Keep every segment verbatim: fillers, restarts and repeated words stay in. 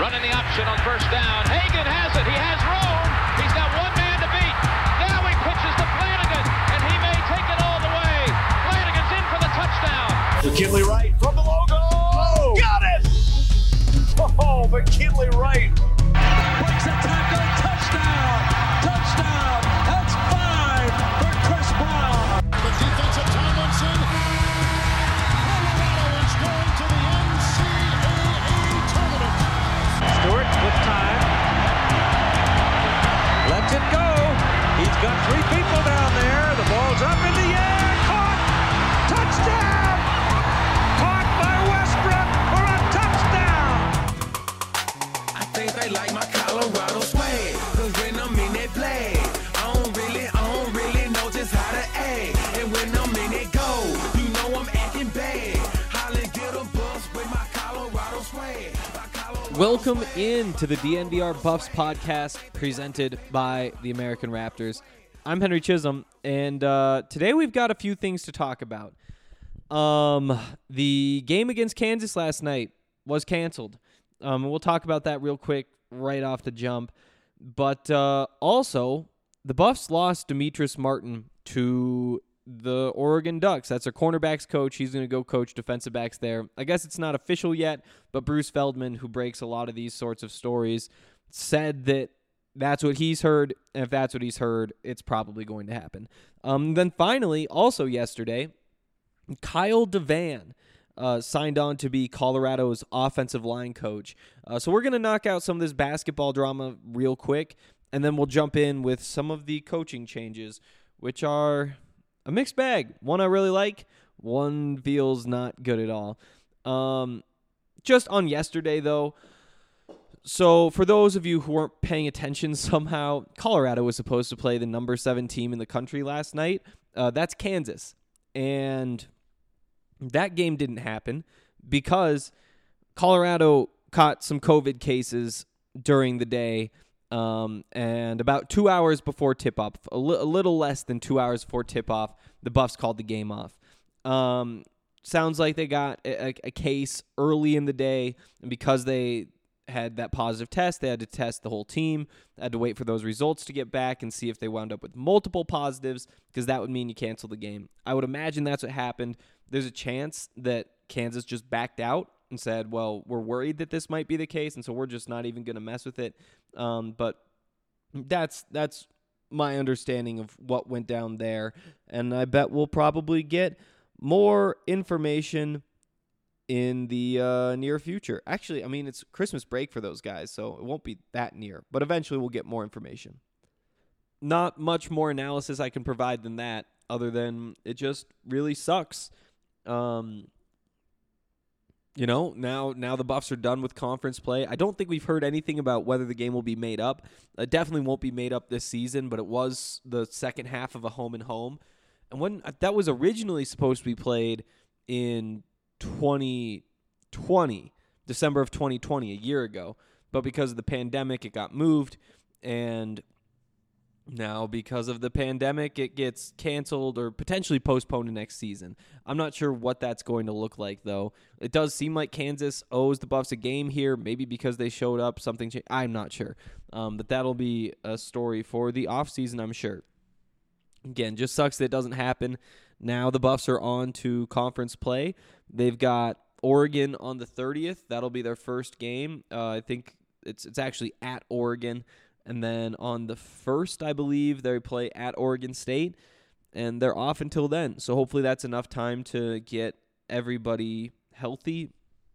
running the option on first down. Hagan has it. He has room. He's got one man to beat. Now he pitches to Flanagan, and he may take it all the way. Flanagan's in for the touchdown. McKinley Wright from the logo. Oh, got it! Oh, McKinley Wright. Breaks a tackle. Touchdown. Touchdown. That's five for Chris Brown. The defensive Tomlinson. Colorado is going to the N C double A tournament. Stewart with time. Lets it go. He's got three people down there. The ball's up in the air. Caught. Touchdown. Caught by Westbrook for a touchdown. I think they like my Colorado swag. Cause when I'm in that play, I don't really, I don't really know just how to act. And when I'm in it go, you know I'm acting bad. Holly get a bus with my Colorado swag. My Colorado Welcome in to the D N V R Buffs podcast presented by the American Raptors. I'm Henry Chisholm, and uh, today we've got a few things to talk about. Um, the game against Kansas last night was canceled. Um, we'll talk about that real quick right off the jump. But uh, also, the Buffs lost Demetrius Martin to the Oregon Ducks. That's their cornerbacks coach. He's going to go coach defensive backs there. I guess it's not official yet, but Bruce Feldman, who breaks a lot of these sorts of stories, said that that's what he's heard, and if that's what he's heard, it's probably going to happen. Um, then finally, also yesterday, Kyle Devan uh, signed on to be Colorado's offensive line coach. Uh, so we're going to knock out some of this basketball drama real quick, and then we'll jump in with some of the coaching changes, which are a mixed bag. One I really like, one feels not good at all. Um, just on yesterday, though, so for those of you who weren't paying attention somehow, Colorado was supposed to play the number seven team in the country last night. Uh, that's Kansas. And that game didn't happen because Colorado caught some COVID cases during the day. Um, and about two hours before tip-off, a, li- a little less than two hours before tip-off, the Buffs called the game off. Um, sounds like they got a, a case early in the day, and because they had that positive test, they had to test the whole team, had to wait for those results to get back and see if they wound up with multiple positives, because that would mean you cancel the game. I would imagine that's what happened. There's a chance that Kansas just backed out and said, well, we're worried that this might be the case, and so we're just not even going to mess with it. Um, but that's that's my understanding of what went down there, and I bet we'll probably get more information in the uh, near future. Actually, I mean, it's Christmas break for those guys, so it won't be that near, but eventually we'll get more information. Not much more analysis I can provide than that, other than it just really sucks. Um, you know, now now the Buffs are done with conference play. I don't think we've heard anything about whether the game will be made up. It definitely won't be made up this season, but it was the second half of a home and home. And when that was originally supposed to be played in twenty twenty, December of twenty twenty, a year ago. But because of the pandemic, it got moved, and now because of the pandemic, it gets canceled or potentially postponed to next season. I'm not sure what that's going to look like, though. It does seem like Kansas owes the Buffs a game here, maybe because they showed up, something changed. I'm not sure. Um, but that'll be a story for the offseason, I'm sure. Again, just sucks that it doesn't happen. Now the Buffs are on to conference play. They've got Oregon on the thirtieth. That'll be their first game. Uh, I think it's it's actually at Oregon. And then on the first, I believe, they play at Oregon State. And they're off until then. So hopefully that's enough time to get everybody healthy.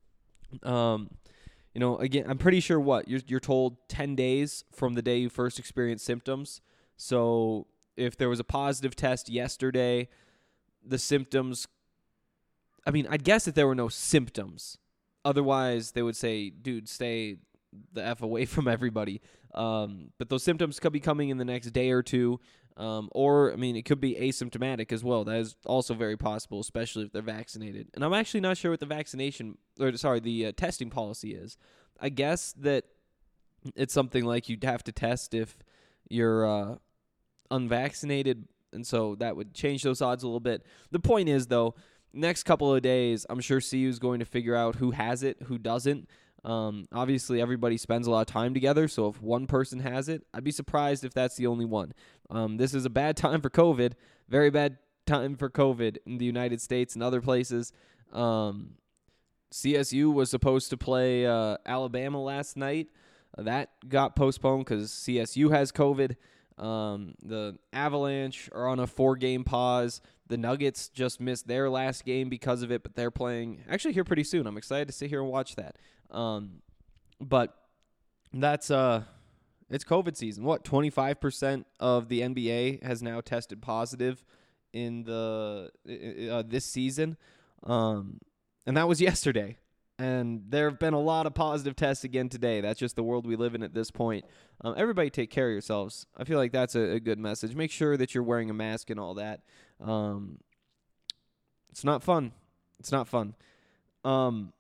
Um, you know, again, I'm pretty sure what? You're, you're told ten days from the day you first experienced symptoms. So if there was a positive test yesterday, the symptoms, I mean, I'd guess that there were no symptoms. Otherwise, they would say, dude, stay the F away from everybody. Um, but those symptoms could be coming in the next day or two. Um, or, I mean, it could be asymptomatic as well. That is also very possible, especially if they're vaccinated. And I'm actually not sure what the vaccination, or sorry, the uh, testing policy is. I guess that it's something like you'd have to test if you're uh, unvaccinated, and so that would change those odds a little bit. The point is, though, next couple of days, I'm sure C U is going to figure out who has it, who doesn't. Um, obviously, everybody spends a lot of time together, so if one person has it, I'd be surprised if that's the only one. Um, this is a bad time for COVID, very bad time for COVID in the United States and other places. Um, C S U was supposed to play uh, Alabama last night. Uh, that got postponed because C S U has COVID. Um, the Avalanche are on a four-game pause. The Nuggets just missed their last game because of it, but they're playing actually here pretty soon. I'm excited to sit here and watch that. Um, but that's uh, it's COVID season. What, twenty-five percent of the N B A has now tested positive in the uh, this season, um, and that was yesterday. And there have been a lot of positive tests again today. That's just the world we live in at this point. Um, everybody take care of yourselves. I feel like that's a, a good message. Make sure that you're wearing a mask and all that. Um, it's not fun. It's not fun. Um,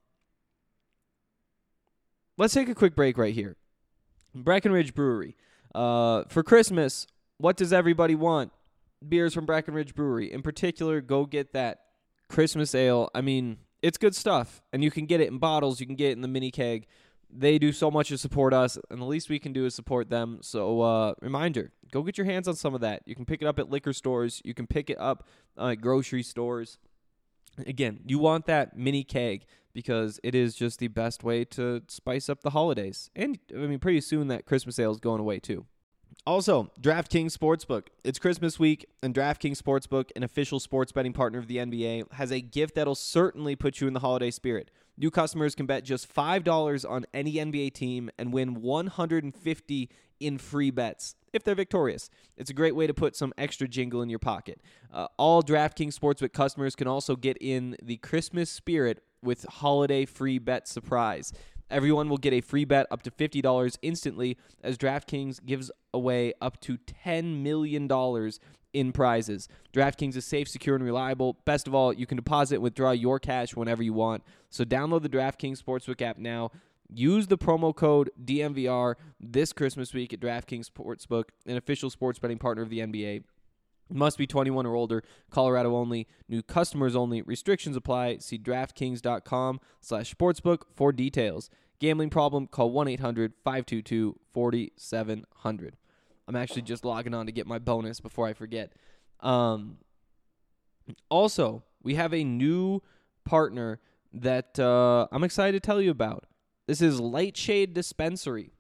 let's take a quick break right here. Breckenridge Brewery. Uh, for Christmas, what does everybody want? Beers from Breckenridge Brewery. In particular, go get that Christmas ale. I mean, it's good stuff, and you can get it in bottles. You can get it in the mini keg. They do so much to support us, and the least we can do is support them. So, uh, reminder, go get your hands on some of that. You can pick it up at liquor stores. You can pick it up uh, at grocery stores. Again, you want that mini keg because it is just the best way to spice up the holidays. And, I mean, pretty soon that Christmas ale is going away, too. Also, DraftKings Sportsbook. It's Christmas week, and DraftKings Sportsbook, an official sports betting partner of the N B A, has a gift that'll certainly put you in the holiday spirit. New customers can bet just five dollars on any N B A team and win one hundred fifty dollars in free bets if they're victorious. It's a great way to put some extra jingle in your pocket. Uh, all DraftKings Sportsbook customers can also get in the Christmas spirit with holiday free bet surprise. Everyone will get a free bet up to fifty dollars instantly as DraftKings gives away up to ten million dollars in prizes. DraftKings is safe, secure, and reliable. Best of all, you can deposit and withdraw your cash whenever you want. So download the DraftKings Sportsbook app now. Use the promo code D M V R this Christmas week at DraftKings Sportsbook, an official sports betting partner of the N B A. Must be twenty-one or older. Colorado only. New customers only. Restrictions apply. See DraftKings.com slash sportsbook for details. Gambling problem? Call one eight hundred five two two four seven zero zero. I'm actually just logging on to get my bonus before I forget. Um, also, we have a new partner that uh, I'm excited to tell you about. This is Lightshade Dispensary.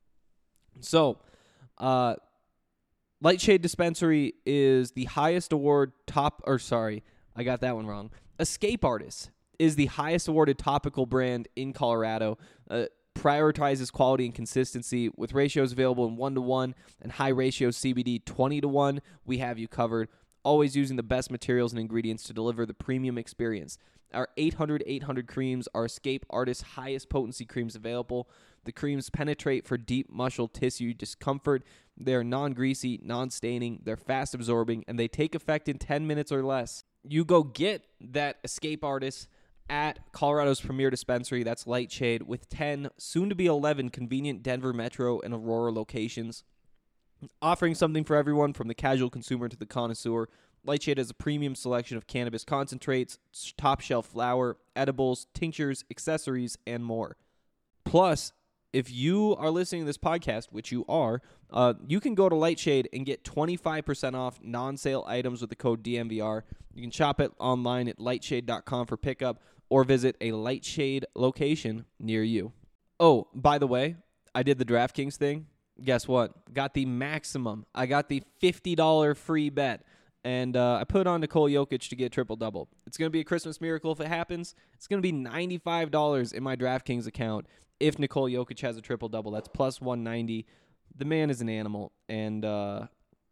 So, uh... Lightshade Dispensary is the highest award top, or sorry, I got that one wrong. Escape Artist is the highest awarded topical brand in Colorado. Uh, prioritizes quality and consistency with ratios available in one to one and high ratio C B D twenty to one. We have you covered. Always using the best materials and ingredients to deliver the premium experience. Our eight hundred eight hundred creams are Escape Artist's highest potency creams available. The creams penetrate for deep muscle tissue discomfort. They're non-greasy, non-staining, they're fast-absorbing, and they take effect in ten minutes or less. You go get that Escape Artist at Colorado's premier dispensary, that's Lightshade, with ten, soon-to-be eleven convenient Denver Metro and Aurora locations. Offering something for everyone from the casual consumer to the connoisseur, Lightshade has a premium selection of cannabis concentrates, top-shelf flower, edibles, tinctures, accessories, and more. Plus, if you are listening to this podcast, which you are, uh, you can go to Lightshade and get twenty-five percent off non-sale items with the code D M V R. You can shop it online at lightshade dot com for pickup or visit a Lightshade location near you. Oh, by the way, I did the DraftKings thing. Guess what? Got the maximum. I got the fifty dollars free bet. And uh, I put on Nikola Jokic to get a triple-double. It's going to be a Christmas miracle if it happens. It's going to be ninety-five dollars in my DraftKings account if Nikola Jokic has a triple-double. That's plus one ninety. The man is an animal. And, uh,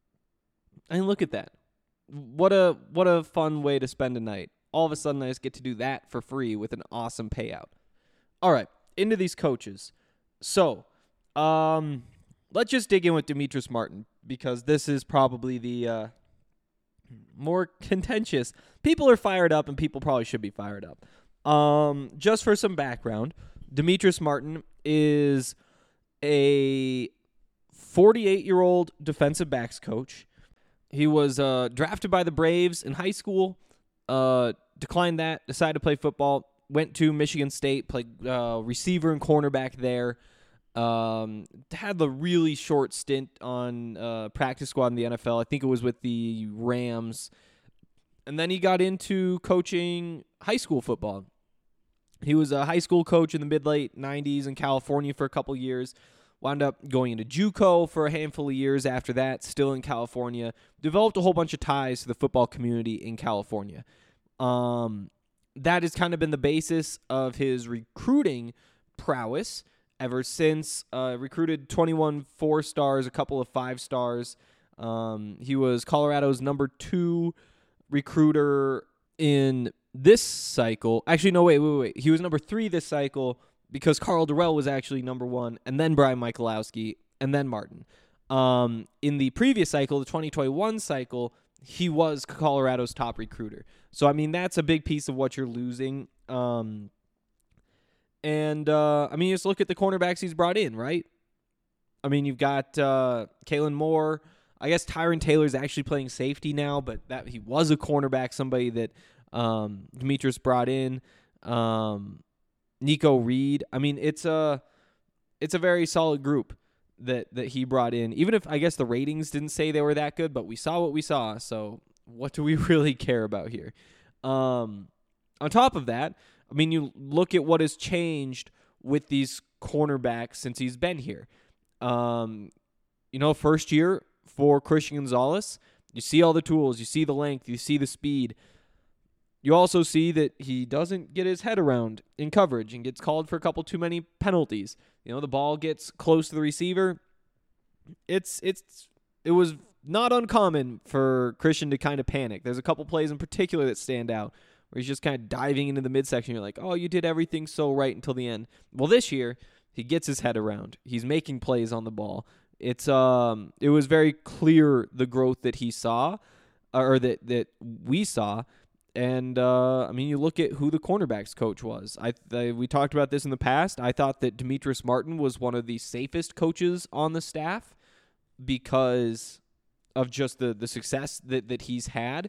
I mean, look at that. What a what a fun way to spend a night. All of a sudden, I just get to do that for free with an awesome payout. All right, into these coaches. So, um, let's just dig in with Demetrius Martin because this is probably the uh, more contentious. People are fired up, and people probably should be fired up. Um, just for some background, Demetrius Martin is a forty-eight-year-old defensive backs coach. He was uh, drafted by the Braves in high school, uh, declined that, decided to play football, went to Michigan State, played uh, receiver and cornerback there. Um, had the really short stint on uh, practice squad in the N F L. I think it was with the Rams. And then he got into coaching high school football. He was a high school coach in the mid-late nineties in California for a couple years. Wound up going into JUCO for a handful of years after that, still in California. Developed a whole bunch of ties to the football community in California. Um, that has kind of been the basis of his recruiting prowess ever since. Uh, recruited twenty-one four-stars, a couple of five-stars. Um, he was Colorado's number two recruiter in this cycle. Actually, no, wait, wait, wait. He was number three this cycle because Carl Durrell was actually number one, and then Brian Michalowski, and then Martin. Um, in the previous cycle, the twenty twenty-one cycle, he was Colorado's top recruiter. So, I mean, that's a big piece of what you're losing. Um, and, uh, I mean, you just look at the cornerbacks he's brought in, right? I mean, you've got uh, Kalen Moore. I guess Tyron Taylor's actually playing safety now, but that he was a cornerback, somebody that um, Demetrius brought in. Um, Nico Reed. I mean, it's a it's a very solid group that that he brought in. Even if I guess the ratings didn't say they were that good, but we saw what we saw. So what do we really care about here? Um, on top of that, I mean, you look at what has changed with these cornerbacks since he's been here. Um, you know, first year for Christian Gonzalez, you see all the tools, you see the length, you see the speed. You also see that he doesn't get his head around in coverage and gets called for a couple too many penalties. You know, the ball gets close to the receiver. It's it's it was not uncommon for Christian to kind of panic. There's a couple plays in particular that stand out where he's just kind of diving into the midsection. You're like, oh, you did everything so right until the end. Well, this year, he gets his head around. He's making plays on the ball. It's um, it was very clear the growth that he saw, or that that we saw. And, uh, I mean, you look at who the cornerbacks coach was. I, I We talked about this in the past. I thought that Demetrius Martin was one of the safest coaches on the staff because of just the, the success that, that he's had.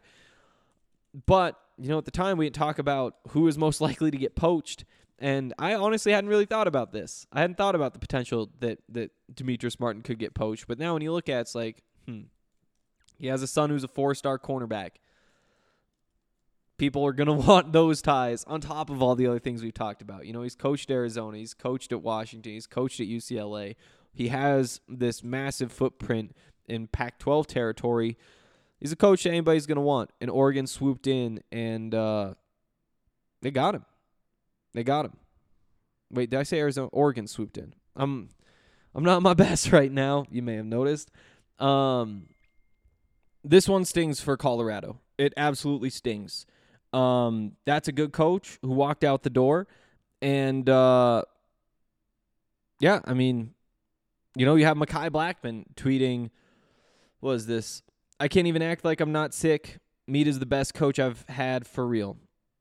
But, you know, at the time, we didn't talk about who was most likely to get poached. And I honestly hadn't really thought about this. I hadn't thought about the potential that, that Demetrius Martin could get poached. But now when you look at it, it's like, hmm, he has a son who's a four-star cornerback. People are going to want those ties on top of all the other things we've talked about. You know, he's coached Arizona. He's coached at Washington. He's coached at U C L A. He has this massive footprint in Pac twelve territory. He's a coach that anybody's going to want. And Oregon swooped in, and uh, they got him. They got him. Wait, did I say Arizona? Oregon swooped in. I'm, I'm not my best right now. You may have noticed. Um, this one stings for Colorado. It absolutely stings. Um, that's a good coach who walked out the door. And, uh, yeah, I mean, you know, you have Mekhi Blackman tweeting, what is this? I can't even act like I'm not sick. Mead is the best coach I've had for real.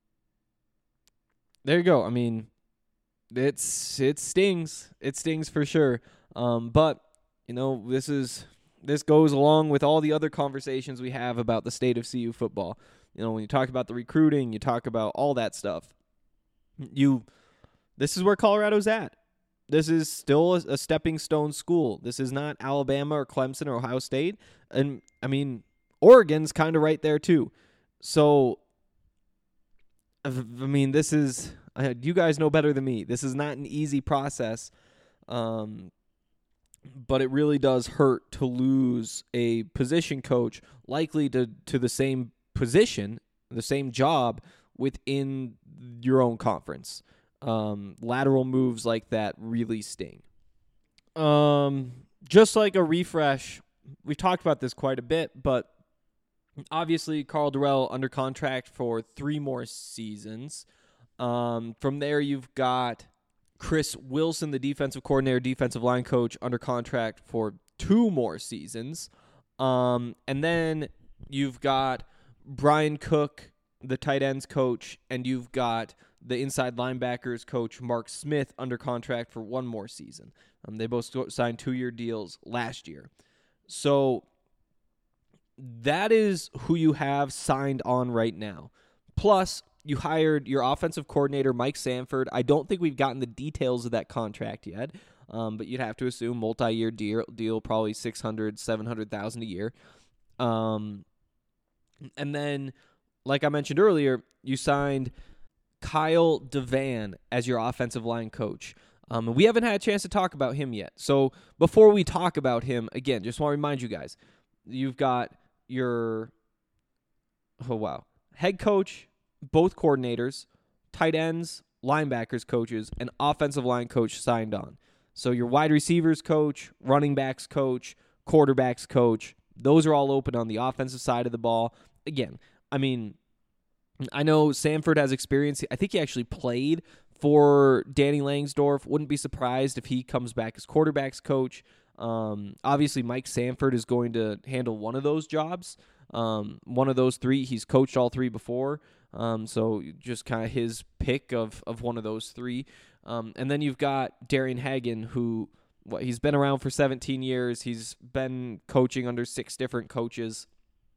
There you go. I mean, it's it stings. It stings for sure. Um, but, you know, this is this goes along with all the other conversations we have about the state of C U football. You know, when you talk about the recruiting, you talk about all that stuff. You, this is where Colorado's at. This is still a, a stepping stone school. This is not Alabama or Clemson or Ohio State. And, I mean, Oregon's kind of right there too. So, I mean, this is, you guys know better than me. This is not an easy process. Um, but it really does hurt to lose a position coach likely to, to the same position, the same job within your own conference. Um, lateral moves like that really sting. Um, just like a refresh, we've talked about this quite a bit, but obviously Carl Durrell under contract for three more seasons. Um, from there, you've got Chris Wilson, the defensive coordinator, defensive line coach, under contract for two more seasons. Um, and then you've got Brian Cook, the tight ends coach, and you've got the inside linebackers coach, Mark Smith, under contract for one more season. Um, they both signed two-year deals last year. So that is who you have signed on right now. Plus, you hired your offensive coordinator, Mike Sanford. I don't think we've gotten the details of that contract yet, um, but you'd have to assume multi-year deal, deal probably six hundred thousand dollars, seven hundred thousand dollars a year. Um, and then, like I mentioned earlier, you signed Kyle DeVan as your offensive line coach. Um, and we haven't had a chance to talk about him yet. So before we talk about him, again, just want to remind you guys, you've got your, oh wow, head coach, both coordinators, tight ends, linebackers coaches, and offensive line coach signed on. So your wide receivers coach, running backs coach, quarterbacks coach, those are all open on the offensive side of the ball. Again, I mean, I know Sanford has experience. I think he actually played for Danny Langsdorff. Wouldn't be surprised if he comes back as quarterbacks coach. Um, obviously, Mike Sanford is going to handle one of those jobs. Um, one of those three. He's coached all three before. Um, so just kind of his pick of, of one of those three. Um, and then you've got Darian Hagan, who what, he's been around for seventeen years. He's been coaching under six different coaches.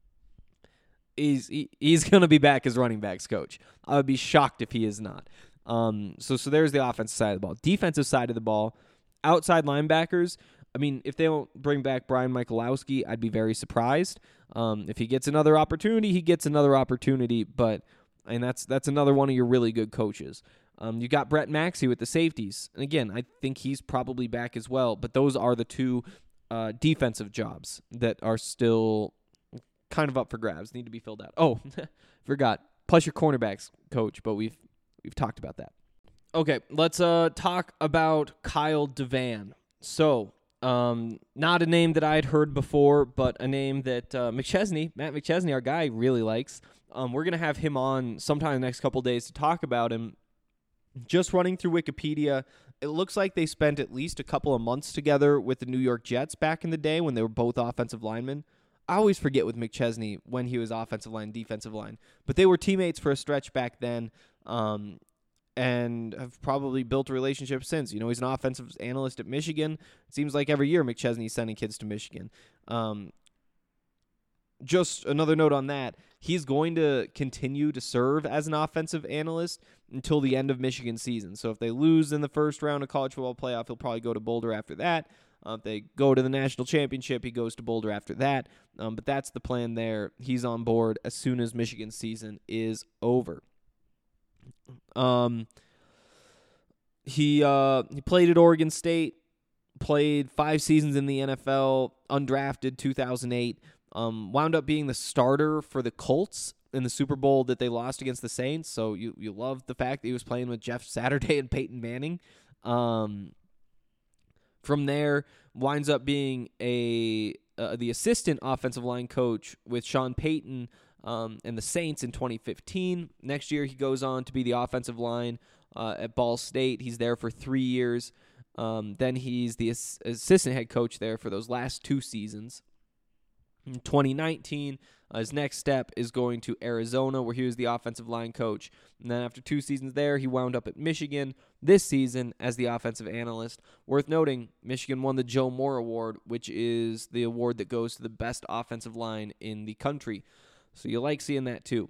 He's he, he's going to be back as running backs coach. I would be shocked if he is not. Um, so so there's the offensive side of the ball. Defensive side of the ball, outside linebackers. I mean, if they don't bring back Brian Michalowski, I'd be very surprised. Um, if he gets another opportunity, he gets another opportunity. But and that's that's another one of your really good coaches. Um, you got Brett Maxey with the safeties, and again, I think he's probably back as well. But those are the two uh, defensive jobs that are still kind of up for grabs, need to be filled out. Oh, forgot. Plus your cornerbacks coach, but we've we've talked about that. Okay, let's uh talk about Kyle DeVan. So, um, not a name that I had heard before, but a name that uh, McChesney, Matt McChesney, our guy, really likes. Um, we're gonna have him on sometime in the next couple days to talk about him. Just running through Wikipedia, it looks like they spent at least a couple of months together with the New York Jets back in the day when they were both offensive linemen. I always forget with McChesney when he was offensive line, defensive line. But they were teammates for a stretch back then, um, and have probably built a relationship since. You know, he's an offensive analyst at Michigan. It seems like every year McChesney's sending kids to Michigan. Um, just another note on that, he's going to continue to serve as an offensive analyst until the end of Michigan season. So if they lose in the first round of college football playoff, he'll probably go to Boulder after that. Uh, if they go to the national championship, he goes to Boulder after that. Um, but that's the plan there. He's on board as soon as Michigan season is over. Um, he uh, he played at Oregon State, played five seasons in the N F L, undrafted two thousand eight, um, wound up being the starter for the Colts in the Super Bowl that they lost against the Saints. So you, you love the fact that he was playing with Jeff Saturday and Peyton Manning. Um From there, winds up being a uh, the assistant offensive line coach with Sean Payton um, and the Saints in twenty fifteen. Next year, he goes on to be the offensive line uh, at Ball State. He's there for three years. Um, then he's the ass- assistant head coach there for those last two seasons. In twenty nineteen, uh, his next step is going to Arizona, where he was the offensive line coach. And then after two seasons there, he wound up at Michigan this season as the offensive analyst. Worth noting, Michigan won the Joe Moore Award, which is the award that goes to the best offensive line in the country. So you like seeing that too.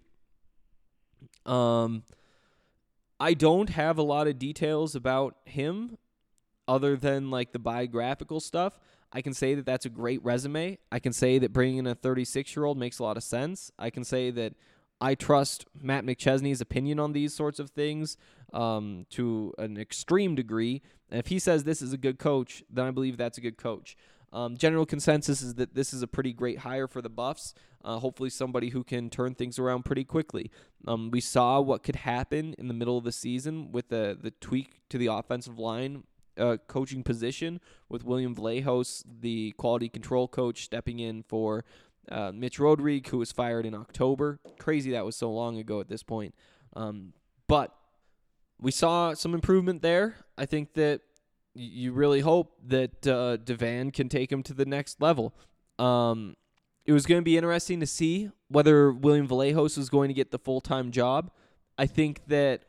Um, I don't have a lot of details about him other than like the biographical stuff. I can say that that's a great resume. I can say that bringing in a thirty-six-year-old makes a lot of sense. I can say that I trust Matt McChesney's opinion on these sorts of things um, to an extreme degree. And if he says this is a good coach, then I believe that's a good coach. Um, general consensus is that this is a pretty great hire for the Buffs. Uh, hopefully somebody who can turn things around pretty quickly. Um, we saw what could happen in the middle of the season with the, the tweak to the offensive line Uh, coaching position with William Vlahos, the quality control coach, stepping in for uh, Mitch Rodrigue, who was fired in October. Crazy that was so long ago at this point. Um, but we saw some improvement there. I think that y- you really hope that uh, DeVan can take him to the next level. Um, it was going to be interesting to see whether William Vlahos was going to get the full-time job. I think that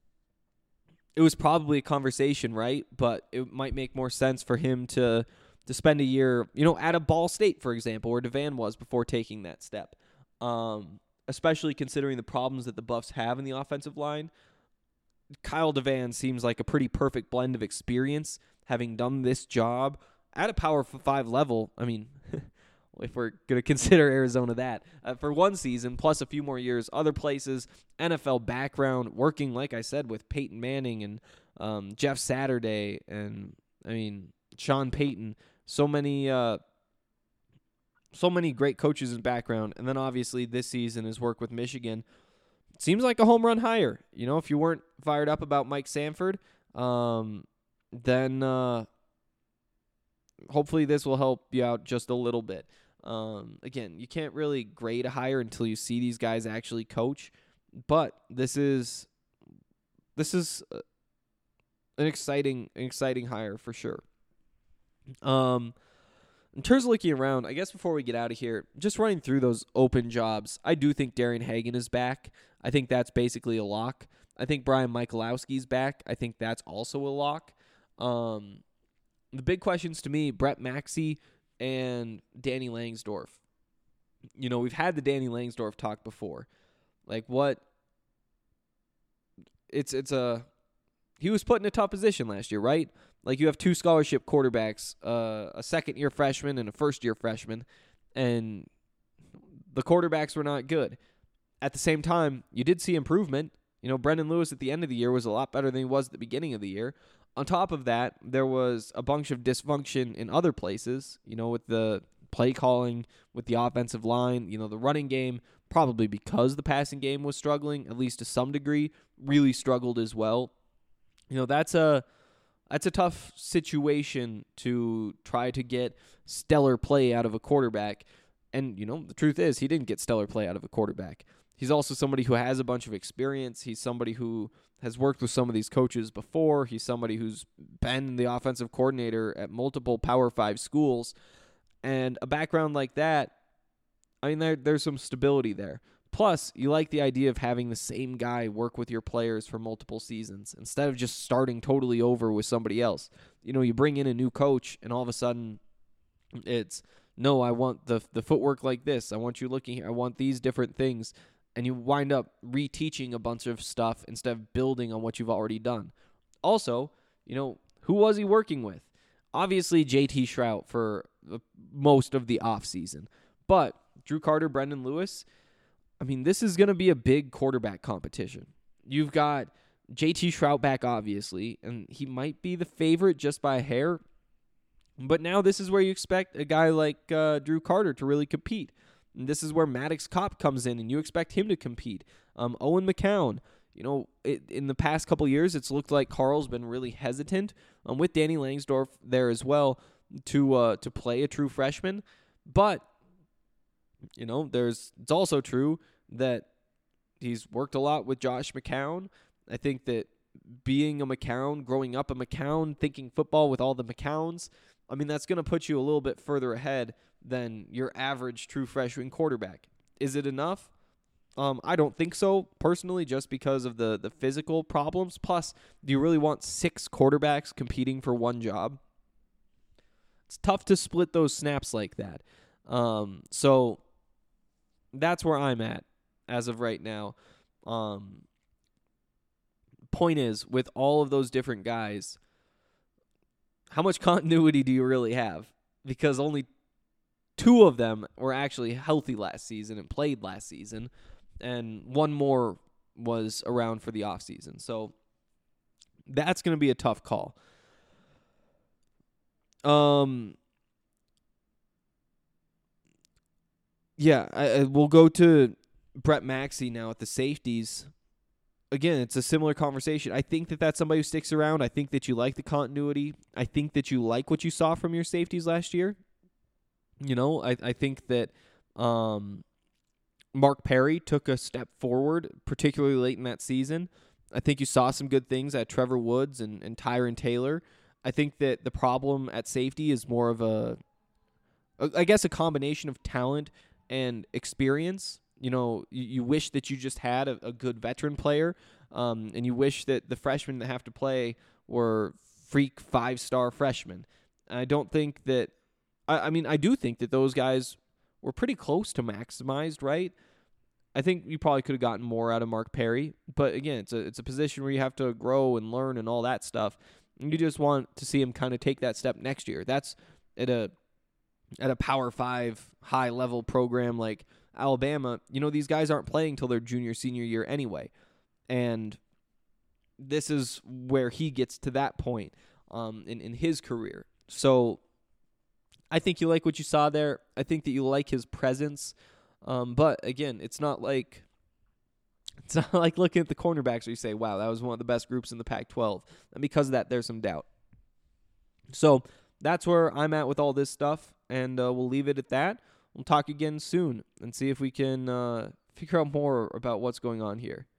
it was probably a conversation, right? But it might make more sense for him to to spend a year, you know, at a Ball State, for example, where DeVan was before taking that step. Um, especially considering the problems that the Buffs have in the offensive line. Kyle Devan seems like a pretty perfect blend of experience, having done this job at a Power five level. I mean, if we're going to consider Arizona that, uh, for one season, plus a few more years, other places, N F L background, working, like I said, with Peyton Manning and um, Jeff Saturday and, I mean, Sean Payton. So many uh, so many great coaches in background. And then, obviously, this season, his work with Michigan seems like a home run hire. You know, if you weren't fired up about Mike Sanford, um, then uh, hopefully this will help you out just a little bit. Um, again, you can't really grade a hire until you see these guys actually coach, but this is this is an exciting an exciting hire for sure. Um, in terms of looking around, I guess before we get out of here, just running through those open jobs, I do think Darian Hagan is back. I think that's basically a lock. I think Brian Michalowski's back. I think that's also a lock. Um, the big questions to me, Brett Maxey and Danny Langsdorf. You know, we've had the Danny Langsdorf talk before. Like what? It's it's a he was put in a tough position last year, right? Like you have two scholarship quarterbacks, uh, a second-year freshman and a first-year freshman, and the quarterbacks were not good. At the same time, you did see improvement. You know, Brendan Lewis at the end of the year was a lot better than he was at the beginning of the year. On top of that, there was a bunch of dysfunction in other places, you know, with the play calling, with the offensive line, you know, the running game, probably because the passing game was struggling, at least to some degree, really struggled as well. You know, that's a that's a tough situation to try to get stellar play out of a quarterback. And, you know, the truth is he didn't get stellar play out of a quarterback. He's also somebody who has a bunch of experience. He's somebody who has worked with some of these coaches before. He's somebody who's been the offensive coordinator at multiple Power Five schools. And a background like that, I mean, there, there's some stability there. Plus, you like the idea of having the same guy work with your players for multiple seasons instead of just starting totally over with somebody else. You know, you bring in a new coach, and all of a sudden it's, no, I want the the footwork like this. I want you looking here. I want these different things. And you wind up reteaching a bunch of stuff instead of building on what you've already done. Also, you know, who was he working with? Obviously, J T Shrout for most of the offseason. But Drew Carter, Brendan Lewis, I mean, this is going to be a big quarterback competition. You've got J T Shrout back, obviously, and he might be the favorite just by a hair. But now this is where you expect a guy like uh, Drew Carter to really compete. And this is where Maddox Kopp comes in, and you expect him to compete. Um, Owen McCown, you know, it, in the past couple years, it's looked like Carl's been really hesitant um, with Danny Langsdorf there as well to uh, to play a true freshman. But, you know, there's it's also true that he's worked a lot with Josh McCown. I think that being a McCown, growing up a McCown, thinking football with all the McCowns, I mean, that's going to put you a little bit further ahead than your average true freshman quarterback. Is it enough? Um, I don't think so, personally, just because of the, the physical problems. Plus, do you really want six quarterbacks competing for one job? It's tough to split those snaps like that. Um, so that's where I'm at as of right now. Um, point is, with all of those different guys, how much continuity do you really have? Because only two of them were actually healthy last season and played last season, and one more was around for the offseason. So that's going to be a tough call. Um, yeah, I, I, we'll go to Brett Maxey now at the safeties. Again, it's a similar conversation. I think that that's somebody who sticks around. I think that you like the continuity. I think that you like what you saw from your safeties last year. You know, I, I think that um, Mark Perry took a step forward, particularly late in that season. I think you saw some good things at Trevor Woods and, and Tyron Taylor. I think that the problem at safety is more of a, a I guess, a combination of talent and experience. You know, you, you wish that you just had a, a good veteran player, um, and you wish that the freshmen that have to play were freak five-star freshmen. And I don't think that I, I mean, I do think that those guys were pretty close to maximized, right? I think you probably could have gotten more out of Mark Perry, but again, it's a it's a position where you have to grow and learn and all that stuff. And you just want to see him kind of take that step next year. That's at a at a Power Five high level program like Alabama. You know, these guys aren't playing till their junior senior year anyway, and this is where he gets to that point um, in in his career. So I think you like what you saw there. I think that you like his presence. Um, but again, it's not like it's not like looking at the cornerbacks where you say, wow, that was one of the best groups in the Pac twelve. And because of that, there's some doubt. So that's where I'm at with all this stuff, and uh, we'll leave it at that. We'll talk again soon and see if we can uh, figure out more about what's going on here.